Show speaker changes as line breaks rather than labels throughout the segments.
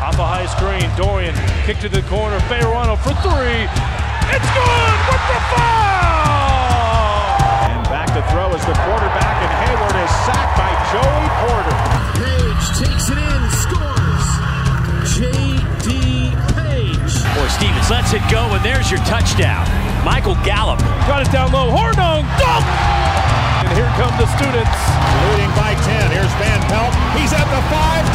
Off a high screen, Dorian kick to the corner, Bejarano for three. It's good with the foul!
And back to throw is the quarterback, and Hayward is sacked by Joey Porter.
Page takes it in, scores. J.D. Page.
Or Stevens lets it go, and there's your touchdown. Michael Gallup.
Got it down low, Hornung, dunk! And here come the students.
Leading by 10, here's Van Pelt. He's at the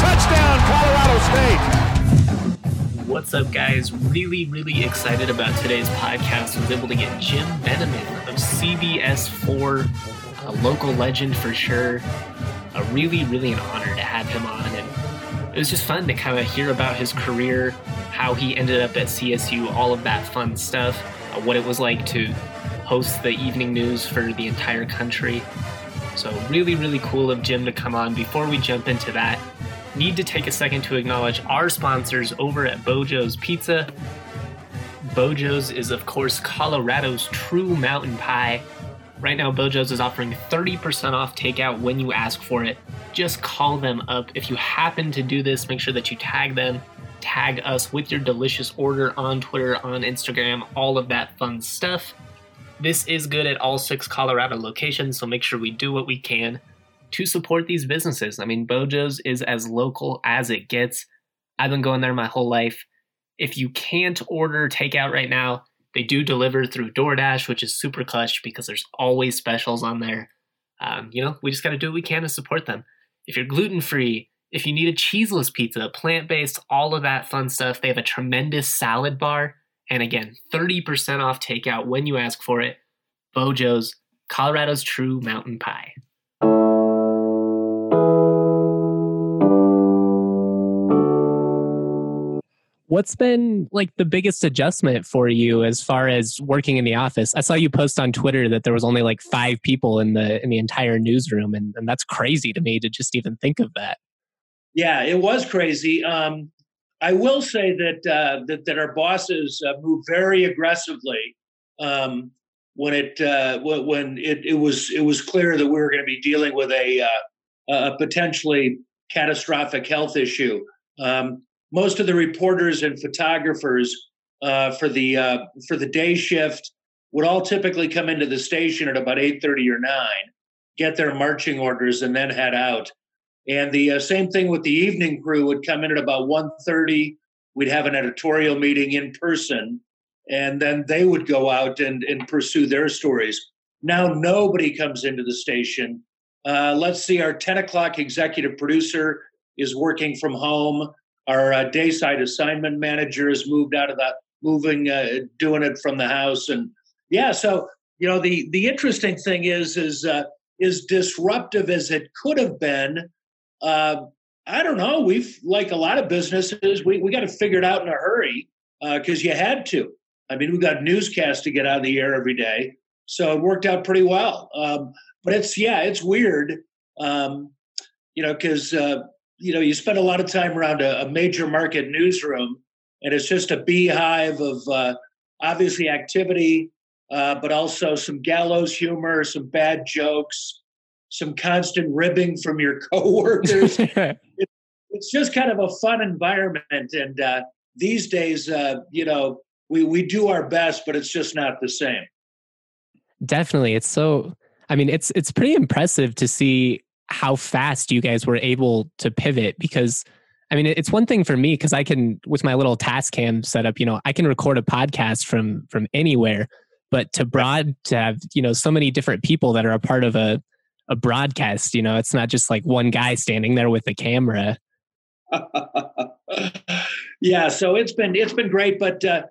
5, touchdown, Colorado State.
What's up, guys? Really excited about today's podcast. I was able to get Jim Beneman of CBS4, a local legend for sure. Really an honor to have him on, and it was just fun to kind of hear about his career, how he ended up at CSU, all of that fun stuff, what it was like to host the evening news for the entire country. So really cool of Jim to come on. Before we jump into that, need to take a second to acknowledge our sponsors over at Bojo's Pizza. Bojo's is, of course, Colorado's true mountain pie. Right now, Bojo's is offering 30% off takeout when you ask for it. Just call them up. If you happen to do this, make sure that you tag them. Tag us with your delicious order on Twitter, on Instagram, all of that fun stuff. This is good at all 6 Colorado locations, so make sure we do what we can to support these businesses. I mean, Bojo's is as local as it gets. I've been going there my whole life. If you can't order takeout right now, they do deliver through DoorDash, which is super clutch because there's always specials on there. We just got to do what we can to support them. If you're gluten-free, if you need a cheeseless pizza, plant-based, all of that fun stuff, they have a tremendous salad bar. And again, 30% off takeout when you ask for it. Bojo's, Colorado's true mountain pie.
What's been like the biggest adjustment for you as far as working in the office? I saw you post on Twitter that there was only like 5 people in the entire newsroom, and that's crazy to me to just even think of that.
Yeah, it was crazy. I will say that our bosses moved very aggressively when it was clear that we were going to be dealing with a potentially catastrophic health issue. Most of the reporters and photographers for the day shift would all typically come into the station at about 8:30 or 9, get their marching orders, and then head out. And the same thing with the evening crew would come in at about 1:30. We'd have an editorial meeting in person, and then they would go out and pursue their stories. Now nobody comes into the station. Let's see, our 10 o'clock executive producer is working from home. Our dayside assignment manager has moved out of that, doing it from the house. And yeah, so, the interesting thing is disruptive as it could have been. I don't know. We've, like a lot of businesses, we got to figure it out in a hurry because you had to. I mean, we've got newscasts to get out of the air every day. So it worked out pretty well. But it's weird, because, you spend a lot of time around a major market newsroom, and it's just a beehive of obviously activity, but also some gallows humor, some bad jokes, some constant ribbing from your coworkers. It's just kind of a fun environment. And these days, we do our best, but it's just not the same.
Definitely. It's pretty impressive to see how fast you guys were able to pivot, because it's one thing for me because I can, with my little Tascam setup, I can record a podcast from anywhere, but to have, so many different people that are a part of a broadcast, it's not just like one guy standing there with a camera.
Yeah. So it's been great, but as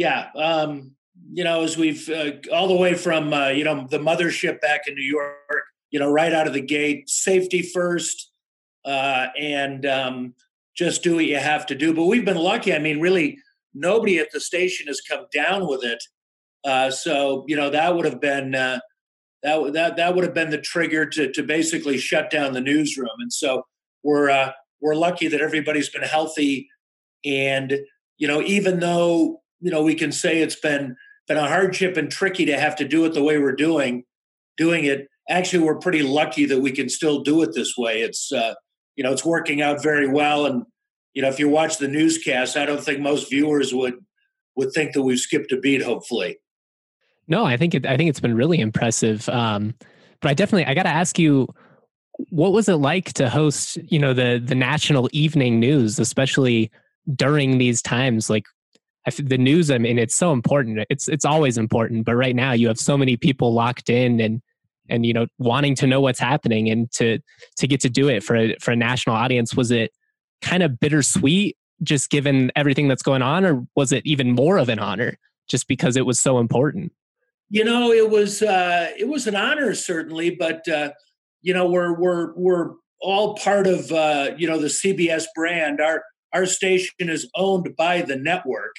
we've all the way from, the mothership back in New York, right out of the gate, safety first, and just do what you have to do. But we've been lucky. Really, nobody at the station has come down with it. So that would have been that would have been the trigger to basically shut down the newsroom. And so we're lucky that everybody's been healthy. And even though we can say it's been a hardship and tricky to have to do it the way we're doing it. Actually, we're pretty lucky that we can still do it this way. It's it's working out very well, and if you watch the newscast, I don't think most viewers would think that we've skipped a beat, hopefully.
No, I think it's been really impressive. But I got to ask you, what was it like to host, the national evening news, especially during these times? Like the news, I mean, it's so important. It's always important, but right now you have so many people locked in and wanting to know what's happening, and to get to do it for a national audience. Was it kind of bittersweet, just given everything that's going on, or was it even more of an honor just because it was so important?
It was an honor, certainly, but we're all part of the CBS brand. Our station is owned by the network,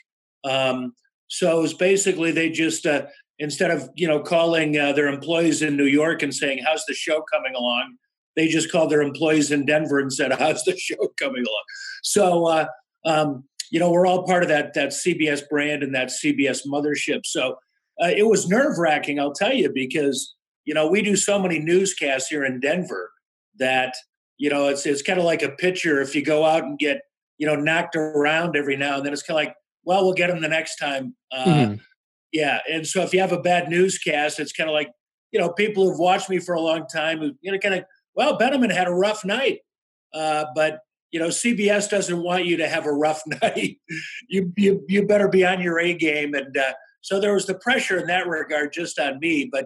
so it's basically they just instead of calling their employees in New York and saying how's the show coming along, they just called their employees in Denver and said how's the show coming along. So we're all part of that CBS brand and that CBS mothership. So it was nerve-wracking, I'll tell you, because we do so many newscasts here in Denver that it's kind of like a pitcher. If you go out and get knocked around every now and then, it's kind of like, well, we'll get him the next time. Yeah, and so if you have a bad newscast, it's kind of like people who've watched me for a long time who kind of, well, Beneman had a rough night, but CBS doesn't want you to have a rough night. You better be on your A game, and so there was the pressure in that regard just on me, but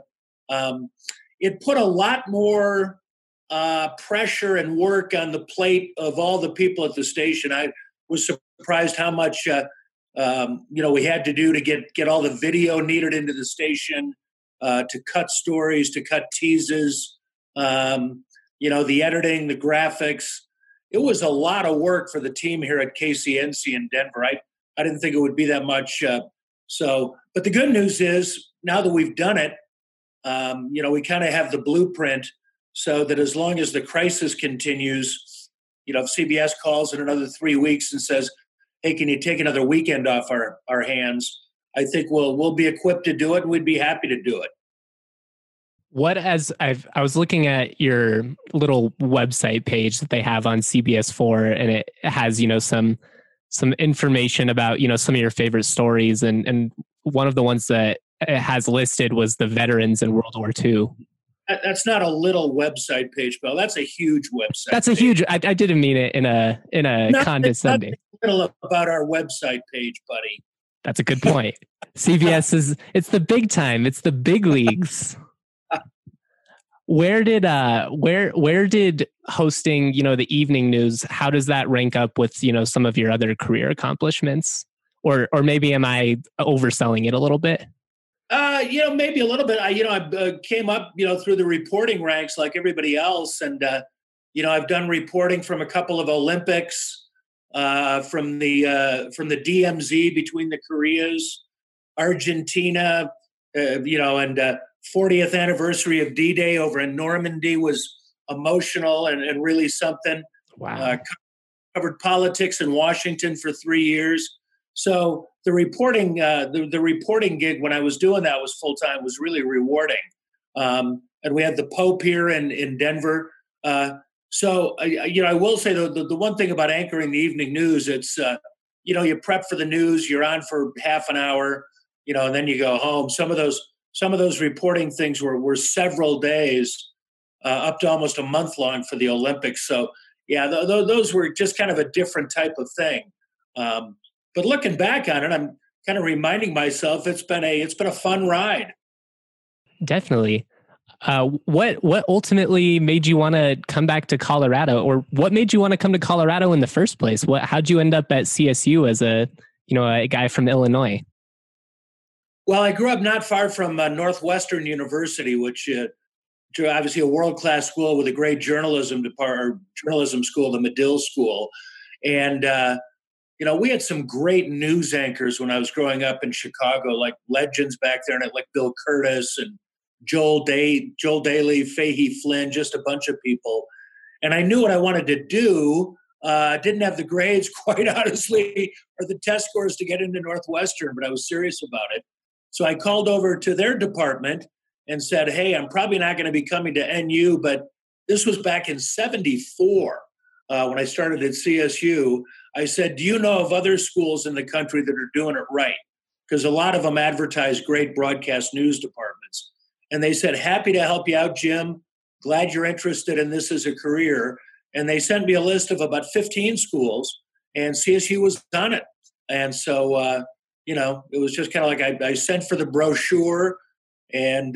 it put a lot more pressure and work on the plate of all the people at the station. I was surprised how much we had to do to get all the video needed into the station, to cut stories, to cut teases, the editing, the graphics. It was a lot of work for the team here at KCNC in Denver. I didn't think it would be that much. But the good news is now that we've done it, we kind of have the blueprint so that as long as the crisis continues, if CBS calls in another 3 weeks and says, hey, can you take another weekend off our hands? I think we'll be equipped to do it, and we'd be happy to do it.
I was looking at your little website page that they have on CBS4, and it has, some information about, some of your favorite stories. And one of the ones that it has listed was the veterans in World War II.
That's not a little website page, Bill. That's a huge website.
That's a huge, I didn't mean it in a condescending.
Little about our website page, buddy.
That's a good point. CBS it's the big time. It's the big leagues. Where did hosting, the evening news, how does that rank up with, some of your other career accomplishments? Or maybe am I overselling it a little bit?
Maybe a little bit. I came up, through the reporting ranks like everybody else. And, I've done reporting from a couple of Olympics, from the DMZ between the Koreas, Argentina, and 40th anniversary of D-Day over in Normandy was emotional and really something.
Wow.
Covered politics in Washington for 3 years. So the reporting, the reporting gig when I was doing that was full time, was really rewarding. And we had the Pope here in Denver. So I will say the one thing about anchoring the evening news, it's you prep for the news, you're on for half an hour, and then you go home. Some of those reporting things were several days, up to almost a month long for the Olympics. So yeah, those were just kind of a different type of thing. But looking back on it, I'm kind of reminding myself it's been a fun ride.
Definitely. What ultimately made you want to come back to Colorado, or what made you want to come to Colorado in the first place? How'd you end up at CSU as a guy from Illinois?
Well, I grew up not far from Northwestern University, which obviously a world-class school with a great journalism school, the Medill School. And, we had some great news anchors when I was growing up in Chicago, like legends back there, and like Bill Curtis and Joel Daly, Fahey Flynn, just a bunch of people. And I knew what I wanted to do. Didn't have the grades, quite honestly, or the test scores to get into Northwestern, but I was serious about it. So I called over to their department and said, hey, I'm probably not going to be coming to NU, but this was back in 74. when I started at CSU, I said, do you know of other schools in the country that are doing it right? Because a lot of them advertise great broadcast news departments. And they said, happy to help you out, Jim. Glad you're interested in this as a career. And they sent me a list of about 15 schools, and CSU was on it. And so, it was just kind of like I sent for the brochure, and,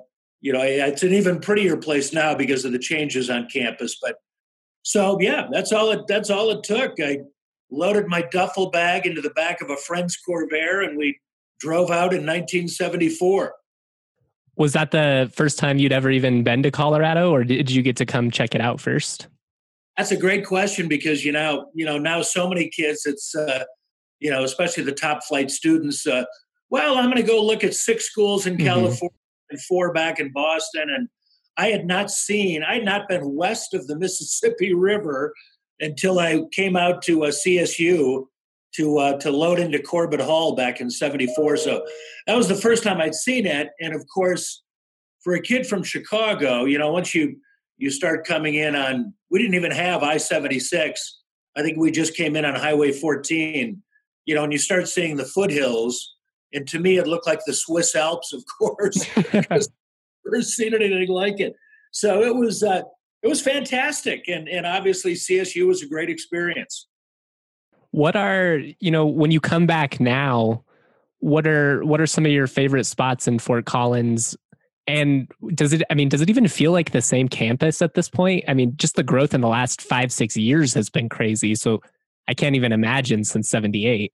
it's an even prettier place now because of the changes on campus. But so, yeah, that's all it took. I loaded my duffel bag into the back of a friend's Corvair, and we drove out in 1974.
Was that the first time you'd ever even been to Colorado, or did you get to come check it out first?
That's a great question because, now so many kids, it's, especially the top flight students, I'm going to go look at 6 schools in California and 4 back in Boston. And I had not been west of the Mississippi River until I came out to CSU to load into Corbett Hall back in 74. So that was the first time I'd seen it. And of course, for a kid from Chicago, once you start coming in on, we didn't even have I-76. I think we just came in on Highway 14, and you start seeing the foothills. And to me, it looked like the Swiss Alps, of course, because I've never seen anything like it. So it was fantastic. And obviously CSU was a great experience.
What are, when you come back now, what are some of your favorite spots in Fort Collins? And does it even feel like the same campus at this point? I mean, just the growth in the last 5-6 years has been crazy. So I can't even imagine since 78.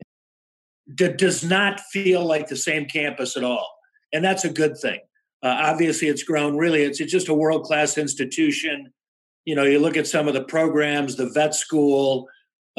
Does not feel like the same campus at all. And that's a good thing. Obviously it's grown really, it's just a world-class institution. You look at some of the programs, the vet school,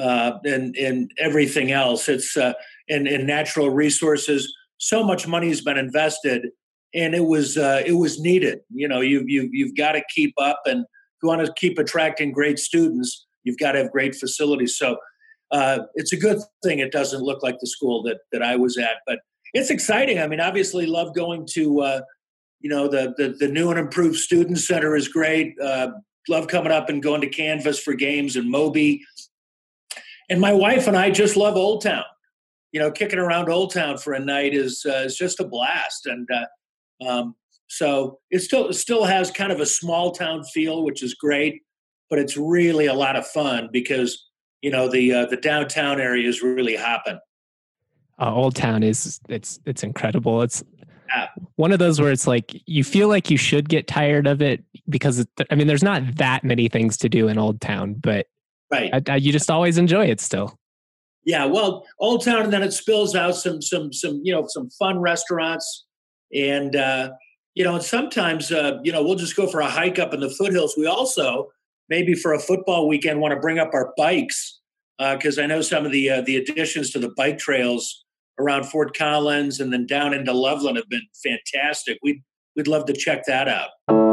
and everything else. It's in natural resources. So much money has been invested, and it was needed. You've got to keep up, and if you want to keep attracting great students, you've got to have great facilities. So it's a good thing it doesn't look like the school that I was at, but it's exciting. I mean, obviously, love going to the new and improved student center is great. Love coming up and going to Canvas for games in Moby. And my wife and I just love Old Town. Kicking around Old Town for a night is just a blast. And so it still has kind of a small town feel, which is great, but it's really a lot of fun because, the downtown area is really hopping.
Old Town it's incredible. It's one of those where it's like you feel like you should get tired of it because there's not that many things to do in Old Town, but
right,
you just always enjoy it still.
Yeah, well, Old Town, and then it spills out some fun restaurants, and and sometimes we'll just go for a hike up in the foothills. We also maybe for a football weekend want to bring up our bikes because I know some of the additions to the bike trails around Fort Collins and then down into Loveland have been fantastic. We'd love to check that out.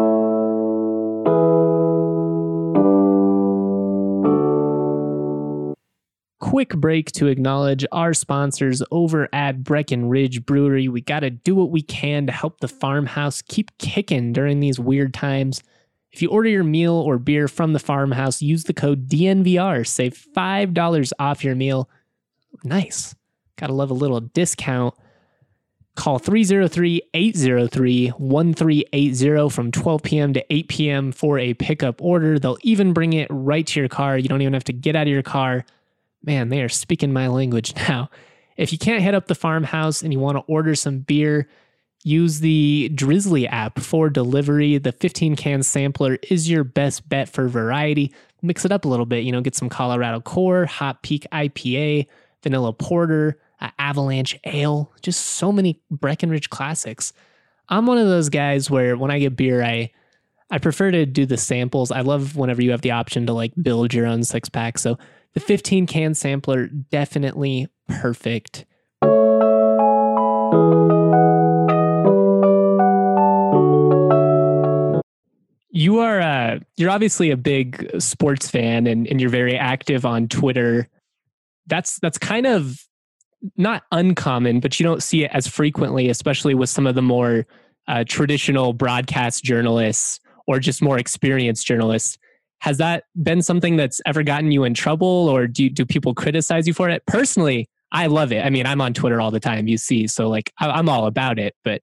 Quick break to acknowledge our sponsors over at Breckenridge Brewery. We got to do what we can to help the farmhouse keep kicking during these weird times. If you order your meal or beer from the farmhouse, use the code DNVR. Save $5 off your meal. Nice. Gotta love a little discount. Call 303-803-1380 from 12 p.m. to 8 p.m. for a pickup order. They'll even bring it right to your car. You don't even have to get out of your car. Man, they are speaking my language now. If you can't hit up the farmhouse and you want to order some beer, use the Drizzly app for delivery. The 15-can sampler is your best bet for variety. Mix it up a little bit, get some Colorado Core, Hot Peak IPA, Vanilla Porter, Avalanche Ale, just so many Breckenridge classics. I'm one of those guys where when I get beer, I prefer to do the samples. I love whenever you have the option to build your own 6-pack. So the 15-can sampler, definitely perfect. You're obviously a big sports fan and you're very active on Twitter. That's kind of not uncommon, but you don't see it as frequently, especially with some of the more traditional broadcast journalists or just more experienced journalists. has that been something that's ever gotten you in trouble, or do people criticize you for it? Personally, I love it. I mean, I'm on Twitter all the time, you see, so like I'm all about it, but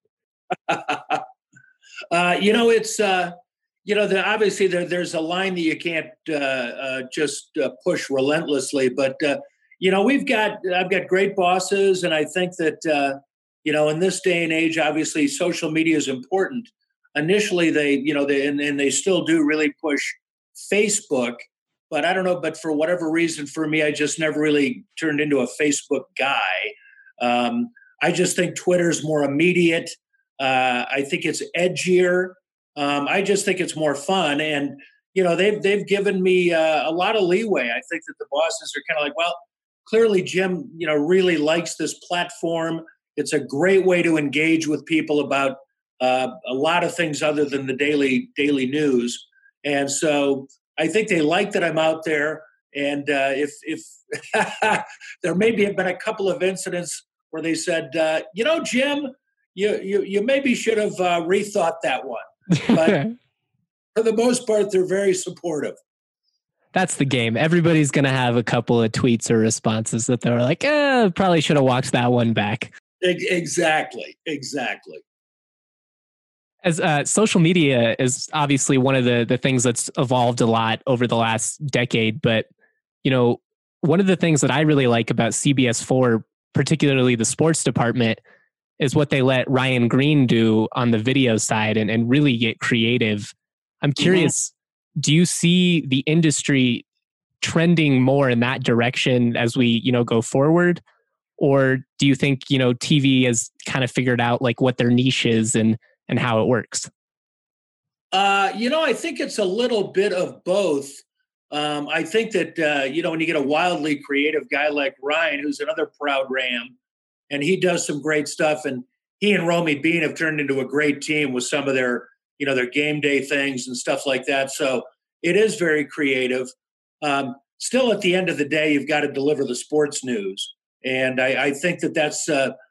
it's obviously there's a line that you can't just push relentlessly, but I've got great bosses, and I think that in this day and age, obviously social media is important. Initially, they still do really push Facebook, but I don't know. But for whatever reason, for me, I just never really turned into a Facebook guy. I just think Twitter's more immediate. I think it's edgier. I just think it's more fun, and they've given me a lot of leeway. I think that the bosses are kind of like, well, clearly Jim, really likes this platform. It's a great way to engage with people about a lot of things other than the daily news. And so I think they like that I'm out there. And if there maybe have been a couple of incidents where they said, Jim, you maybe should have rethought that one. But for the most part, they're very supportive.
That's the game. Everybody's going to have a couple of tweets or responses that they're like, probably should have walked that one back.
Exactly.
As social media is obviously one of the things that's evolved a lot over the last decade. But, one of the things that I really like about CBS4, particularly the sports department, is what they let Ryan Green do on the video side and really get creative. I'm curious, do you see the industry trending more in that direction as we, go forward? Or do you think, TV has kind of figured out like what their niche is and how it works?
I think it's a little bit of both. I think that, when you get a wildly creative guy like Ryan, who's another proud Ram, and he does some great stuff, and he and Romy Bean have turned into a great team with some of their, their game day things and stuff like that. So it is very creative. Still, at the end of the day, you've got to deliver the sports news. And I think that's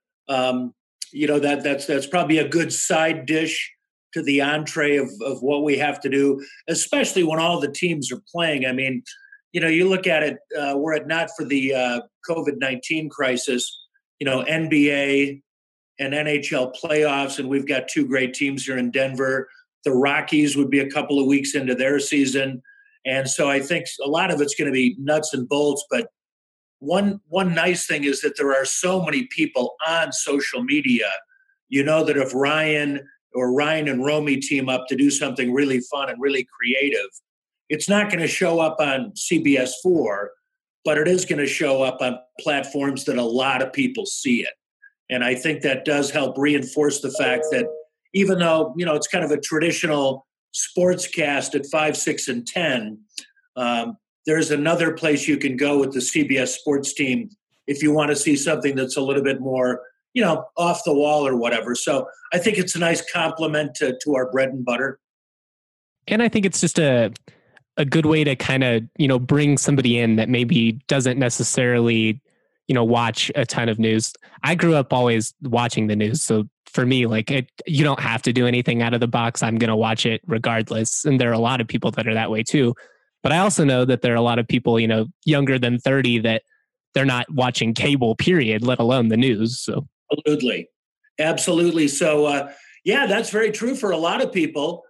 that's probably a good side dish to the entree of what we have to do, especially when all the teams are playing. I mean, you look at it, were it not for the COVID-19 crisis, NBA and NHL playoffs, and we've got two great teams here in Denver. The Rockies would be a couple of weeks into their season. And so I think a lot of it's going to be nuts and bolts, but one nice thing is that there are so many people on social media, that if Ryan and Romy team up to do something really fun and really creative, it's not going to show up on CBS4, but it is going to show up on platforms that a lot of people see it. And I think that does help reinforce the fact that even though, it's kind of a traditional sportscast at 5, 6, and 10, there's another place you can go with the CBS sports team if you want to see something that's a little bit more, off the wall or whatever. So I think it's a nice compliment to our bread and butter.
And I think it's just a good way to kind of, bring somebody in that maybe doesn't necessarily, watch a ton of news. I grew up always watching the news. So for me, you don't have to do anything out of the box. I'm going to watch it regardless. And there are a lot of people that are that way too. But I also know that there are a lot of people, younger than 30 that they're not watching cable, period, let alone the news. So
Absolutely. So, that's very true for a lot of people.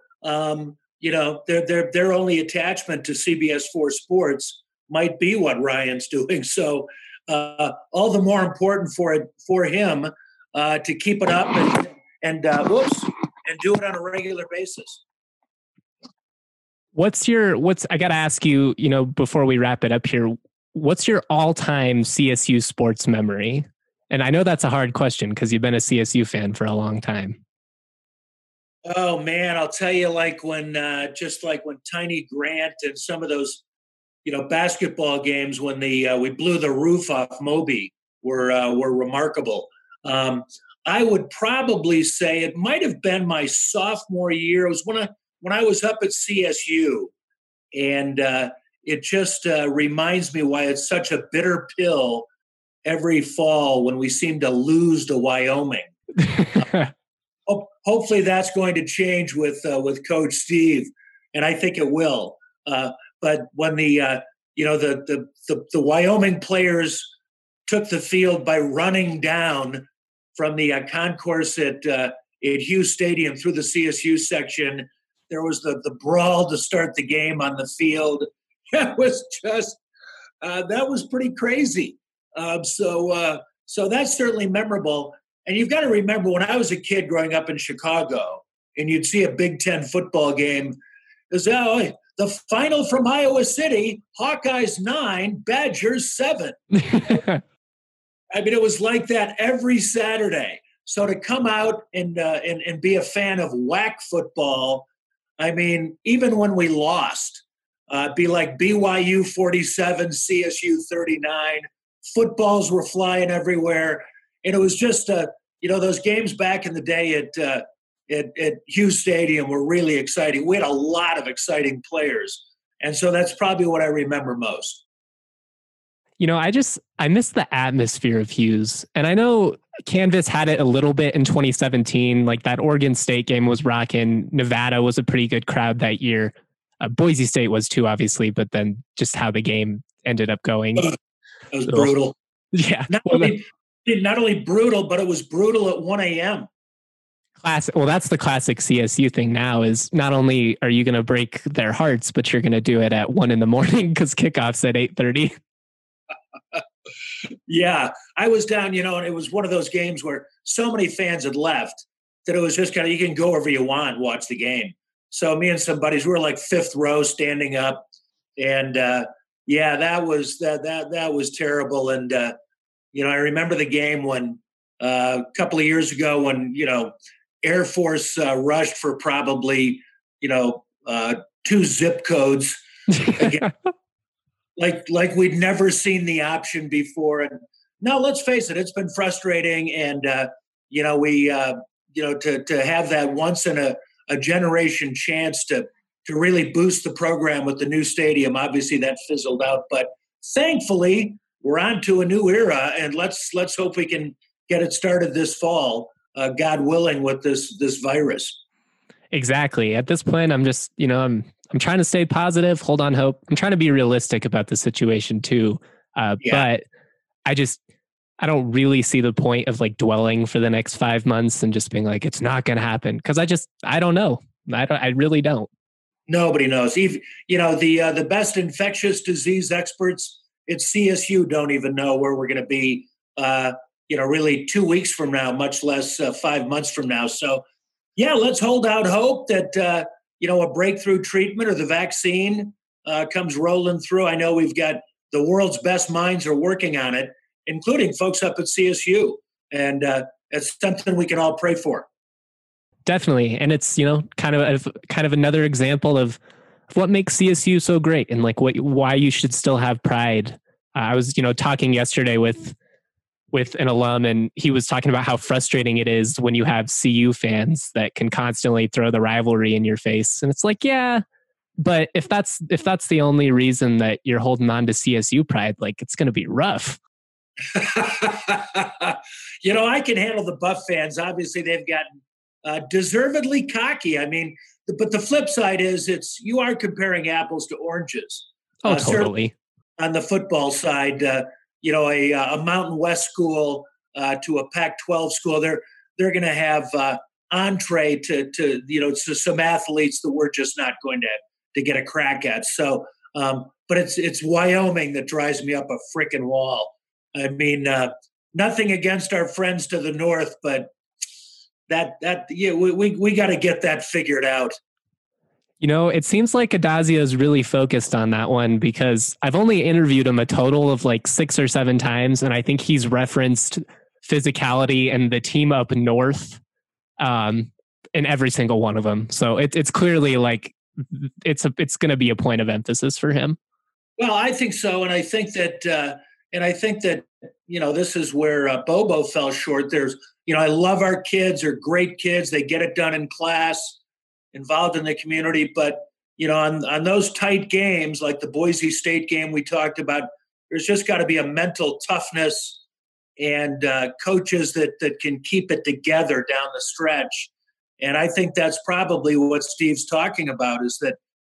Their only attachment to CBS4 Sports might be what Ryan's doing. So all the more important for him to keep it up and do it on a regular basis.
I got to ask you, before we wrap it up here, what's your all-time CSU sports memory? And I know that's a hard question because you've been a CSU fan for a long time.
Oh man, I'll tell you, when Tiny Grant and some of those, basketball games when we blew the roof off Moby were remarkable. I would probably say it might have been my sophomore year. It was when I was up at CSU, and it just reminds me why it's such a bitter pill every fall when we seem to lose to Wyoming. Hopefully that's going to change with Coach Steve, and I think it will. but when the Wyoming players took the field by running down from the concourse at Hughes Stadium through the CSU section, there was the brawl to start the game on the field. It was just that was pretty crazy. So that's certainly memorable. And you've got to remember, when I was a kid growing up in Chicago, and you'd see a Big Ten football game, the final from Iowa City, Hawkeyes 9, Badgers 7. I mean, it was like that every Saturday. So to come out and be a fan of WAC football, I mean, even when we lost, be like BYU 47, CSU 39, footballs were flying everywhere. And it was just, those games back in the day at Hughes Stadium were really exciting. We had a lot of exciting players. And so that's probably what I remember most.
I miss the atmosphere of Hughes. And I know Canvas had it a little bit in 2017. Like, that Oregon State game was rocking. Nevada was a pretty good crowd that year. Boise State was too, obviously, but then just how the game ended up going.
It was brutal.
Yeah.
Not only brutal, but it was brutal at 1 a.m.
Classic. Well, that's the classic CSU thing now, is not only are you going to break their hearts, but you're going to do it at 1 a.m. because kickoff's at 8:30.
Yeah, I was down, and it was one of those games where so many fans had left that it was just kind of, you can go wherever you want, watch the game. So me and some buddies, we were like fifth row standing up, and that was terrible. And I remember the game when a couple of years ago when Air Force rushed for probably 2 zip codes. Again, like we'd never seen the option before. And no, let's face it, it's been frustrating. And, to have that once in a generation chance to really boost the program with the new stadium, obviously that fizzled out. But thankfully, we're on to a new era, and let's hope we can get it started this fall, God willing, with this virus.
Exactly. At this point, I'm just, I'm trying to stay positive, hold on hope. I'm trying to be realistic about the situation too. But I don't really see the point of like dwelling for the next 5 months and just being like, it's not going to happen. Cause I don't know. I really don't.
Nobody knows. Even, the best infectious disease experts at CSU don't even know where we're going to be, really 2 weeks from now, much less 5 months from now. So yeah, let's hold out hope that, a breakthrough treatment or the vaccine comes rolling through. I know we've got the world's best minds are working on it, including folks up at CSU. And it's something we can all pray for.
Definitely. And it's, kind of another example of what makes CSU so great and like why you should still have pride. I was, talking yesterday with an alum, and he was talking about how frustrating it is when you have CU fans that can constantly throw the rivalry in your face. And it's like, yeah, but if that's the only reason that you're holding on to CSU pride, like, it's going to be rough.
I can handle the Buff fans. Obviously, they've gotten deservedly cocky. I mean, but the flip side is you are comparing apples to oranges.
Oh, totally.
On the football side, a Mountain West school to a Pac-12 school, they're going to have entree to some athletes that we're just not going to get a crack at. So, but it's Wyoming that drives me up a frickin' wall. I mean, nothing against our friends to the north, but we got to get that figured out.
It seems like Addazio is really focused on that one, because I've only interviewed him a total of like 6 or 7 times, and I think he's referenced physicality and the team up north in every single one of them. So it's clearly like it's going to be a point of emphasis for him.
Well, I think so, and I think that this is where Bobo fell short. There's I love our kids; they're great kids. They get it done in class, involved in the community. But, on those tight games, like the Boise State game we talked about, there's just got to be a mental toughness and coaches that can keep it together down the stretch. And I think that's probably what Steve's talking about, is that,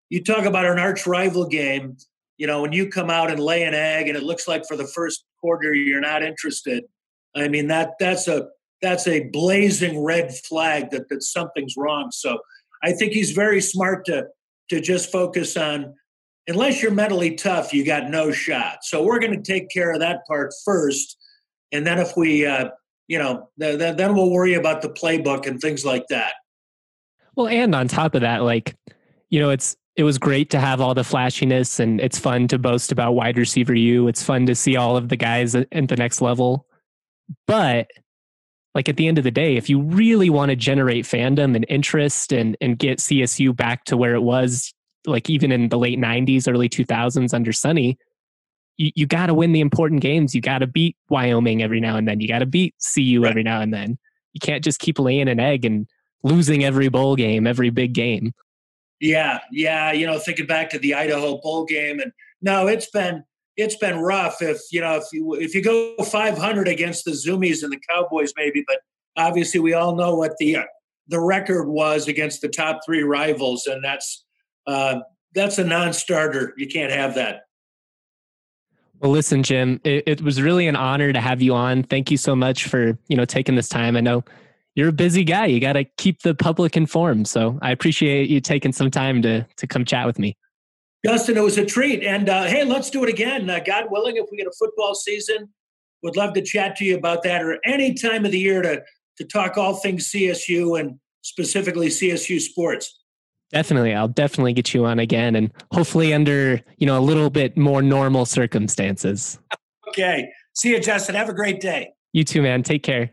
you talk about an arch rival game, when you come out and lay an egg and it looks like for the first quarter you're not interested. I mean, that's a blazing red flag that something's wrong. So I think he's very smart to just focus on, unless you're mentally tough, you got no shot. So we're going to take care of that part first. And then if we, then we'll worry about the playbook and things like that.
Well, and on top of that, it was great to have all the flashiness, and it's fun to boast about wide receiver U. It's fun to see all of the guys at the next level. But at the end of the day, if you really want to generate fandom and interest and get CSU back to where it was, even in the late 90s, early 2000s under Sonny, you got to win the important games. You got to beat Wyoming every now and then. You got to beat CU every now and then. You can't just keep laying an egg and losing every bowl game, every big game.
Yeah. Thinking back to the Idaho bowl game, and no, it's been rough. If you go 500 against the Zoomies and the Cowboys, maybe, but obviously we all know what the record was against the top three rivals, and that's a non-starter. You can't have that.
Well, listen, Jim, it was really an honor to have you on. Thank you so much for taking this time. I know you're a busy guy. You got to keep the public informed. So I appreciate you taking some time to come chat with me.
Justin, it was a treat. And hey, let's do it again. God willing, if we get a football season, would love to chat to you about that, or any time of the year to talk all things CSU and specifically CSU sports.
Definitely. I'll definitely get you on again, and hopefully under, a little bit more normal circumstances.
Okay. See you, Justin. Have a great day.
You too, man. Take care.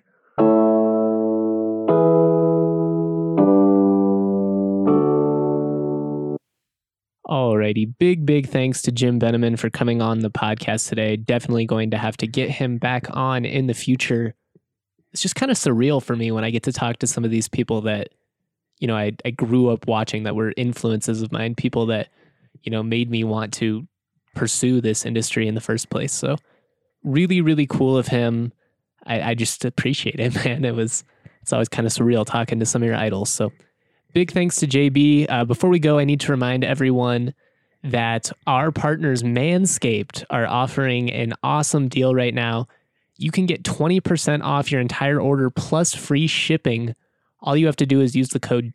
Alrighty. Big thanks to Jim Beneman for coming on the podcast today. Definitely going to have to get him back on in the future. It's just kind of surreal for me when I get to talk to some of these people that, I grew up watching, that were influences of mine, people that, made me want to pursue this industry in the first place. So really, really cool of him. I just appreciate it, man. It's always kind of surreal talking to some of your idols. So big thanks to JB. Before we go, I need to remind everyone that our partners Manscaped are offering an awesome deal right now. You can get 20% off your entire order plus free shipping. All you have to do is use the code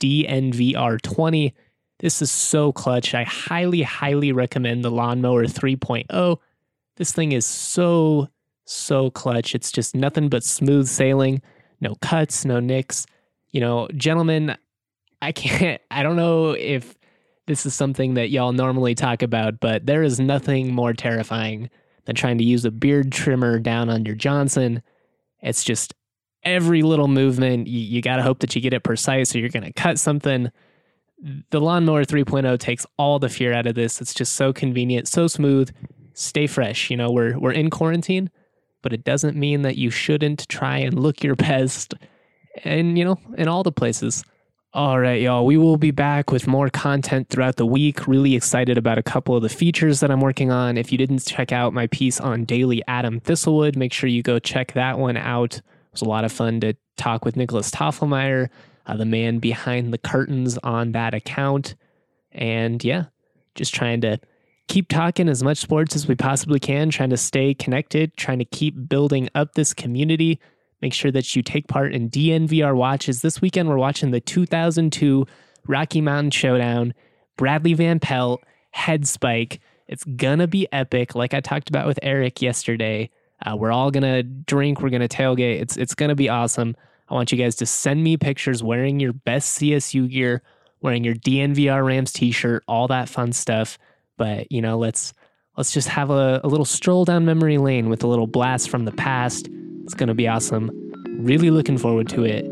DNVR20. This is so clutch. I highly, highly recommend the Lawnmower 3.0. This thing is so clutch. It's just nothing but smooth sailing. No cuts, no nicks. Gentlemen, I don't know if this is something that y'all normally talk about, but there is nothing more terrifying than trying to use a beard trimmer down on your Johnson. It's just every little movement, you got to hope that you get it precise or you're going to cut something. The Lawnmower 3.0 takes all the fear out of this. It's just so convenient, so smooth. Stay fresh. We're in quarantine, but it doesn't mean that you shouldn't try and look your best and, in all the places. All right, y'all, we will be back with more content throughout the week. Really excited about a couple of the features that I'm working on. If you didn't check out my piece on Daily Adam Thistlewood, make sure you go check that one out. It was a lot of fun to talk with Nicholas Toffelmeyer, the man behind the curtains on that account. And yeah, just trying to keep talking as much sports as we possibly can, trying to stay connected, trying to keep building up this community. Make sure that you take part in DNVR watches. This weekend, we're watching the 2002 Rocky Mountain Showdown, Bradley Van Pelt, Head Spike. It's going to be epic. Like I talked about with Eric yesterday, we're all going to drink. We're going to tailgate. It's going to be awesome. I want you guys to send me pictures wearing your best CSU gear, wearing your DNVR Rams t-shirt, all that fun stuff. But, let's just have a little stroll down memory lane with a little blast from the past. It's going to be awesome. Really looking forward to it.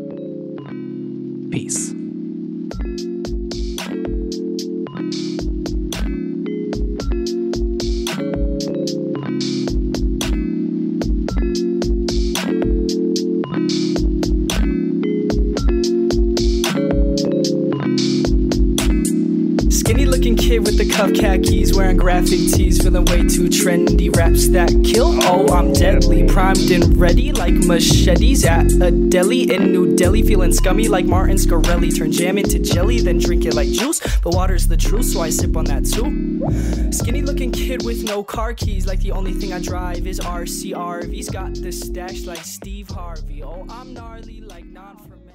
Peace.
Skinny looking kid with the cuff cap. khakis, wearing graphic tees, feeling way too trendy. Raps that kill, oh, I'm deadly. Primed and ready like machetes at a deli in New Delhi. Feeling scummy like Martin Scarelli. Turn jam into jelly, then drink it like juice. But water's the truth, so I sip on that too. Skinny looking kid with no car keys, like the only thing I drive is RCRV's. Got the stash like Steve Harvey. Oh, I'm gnarly like non-fermented.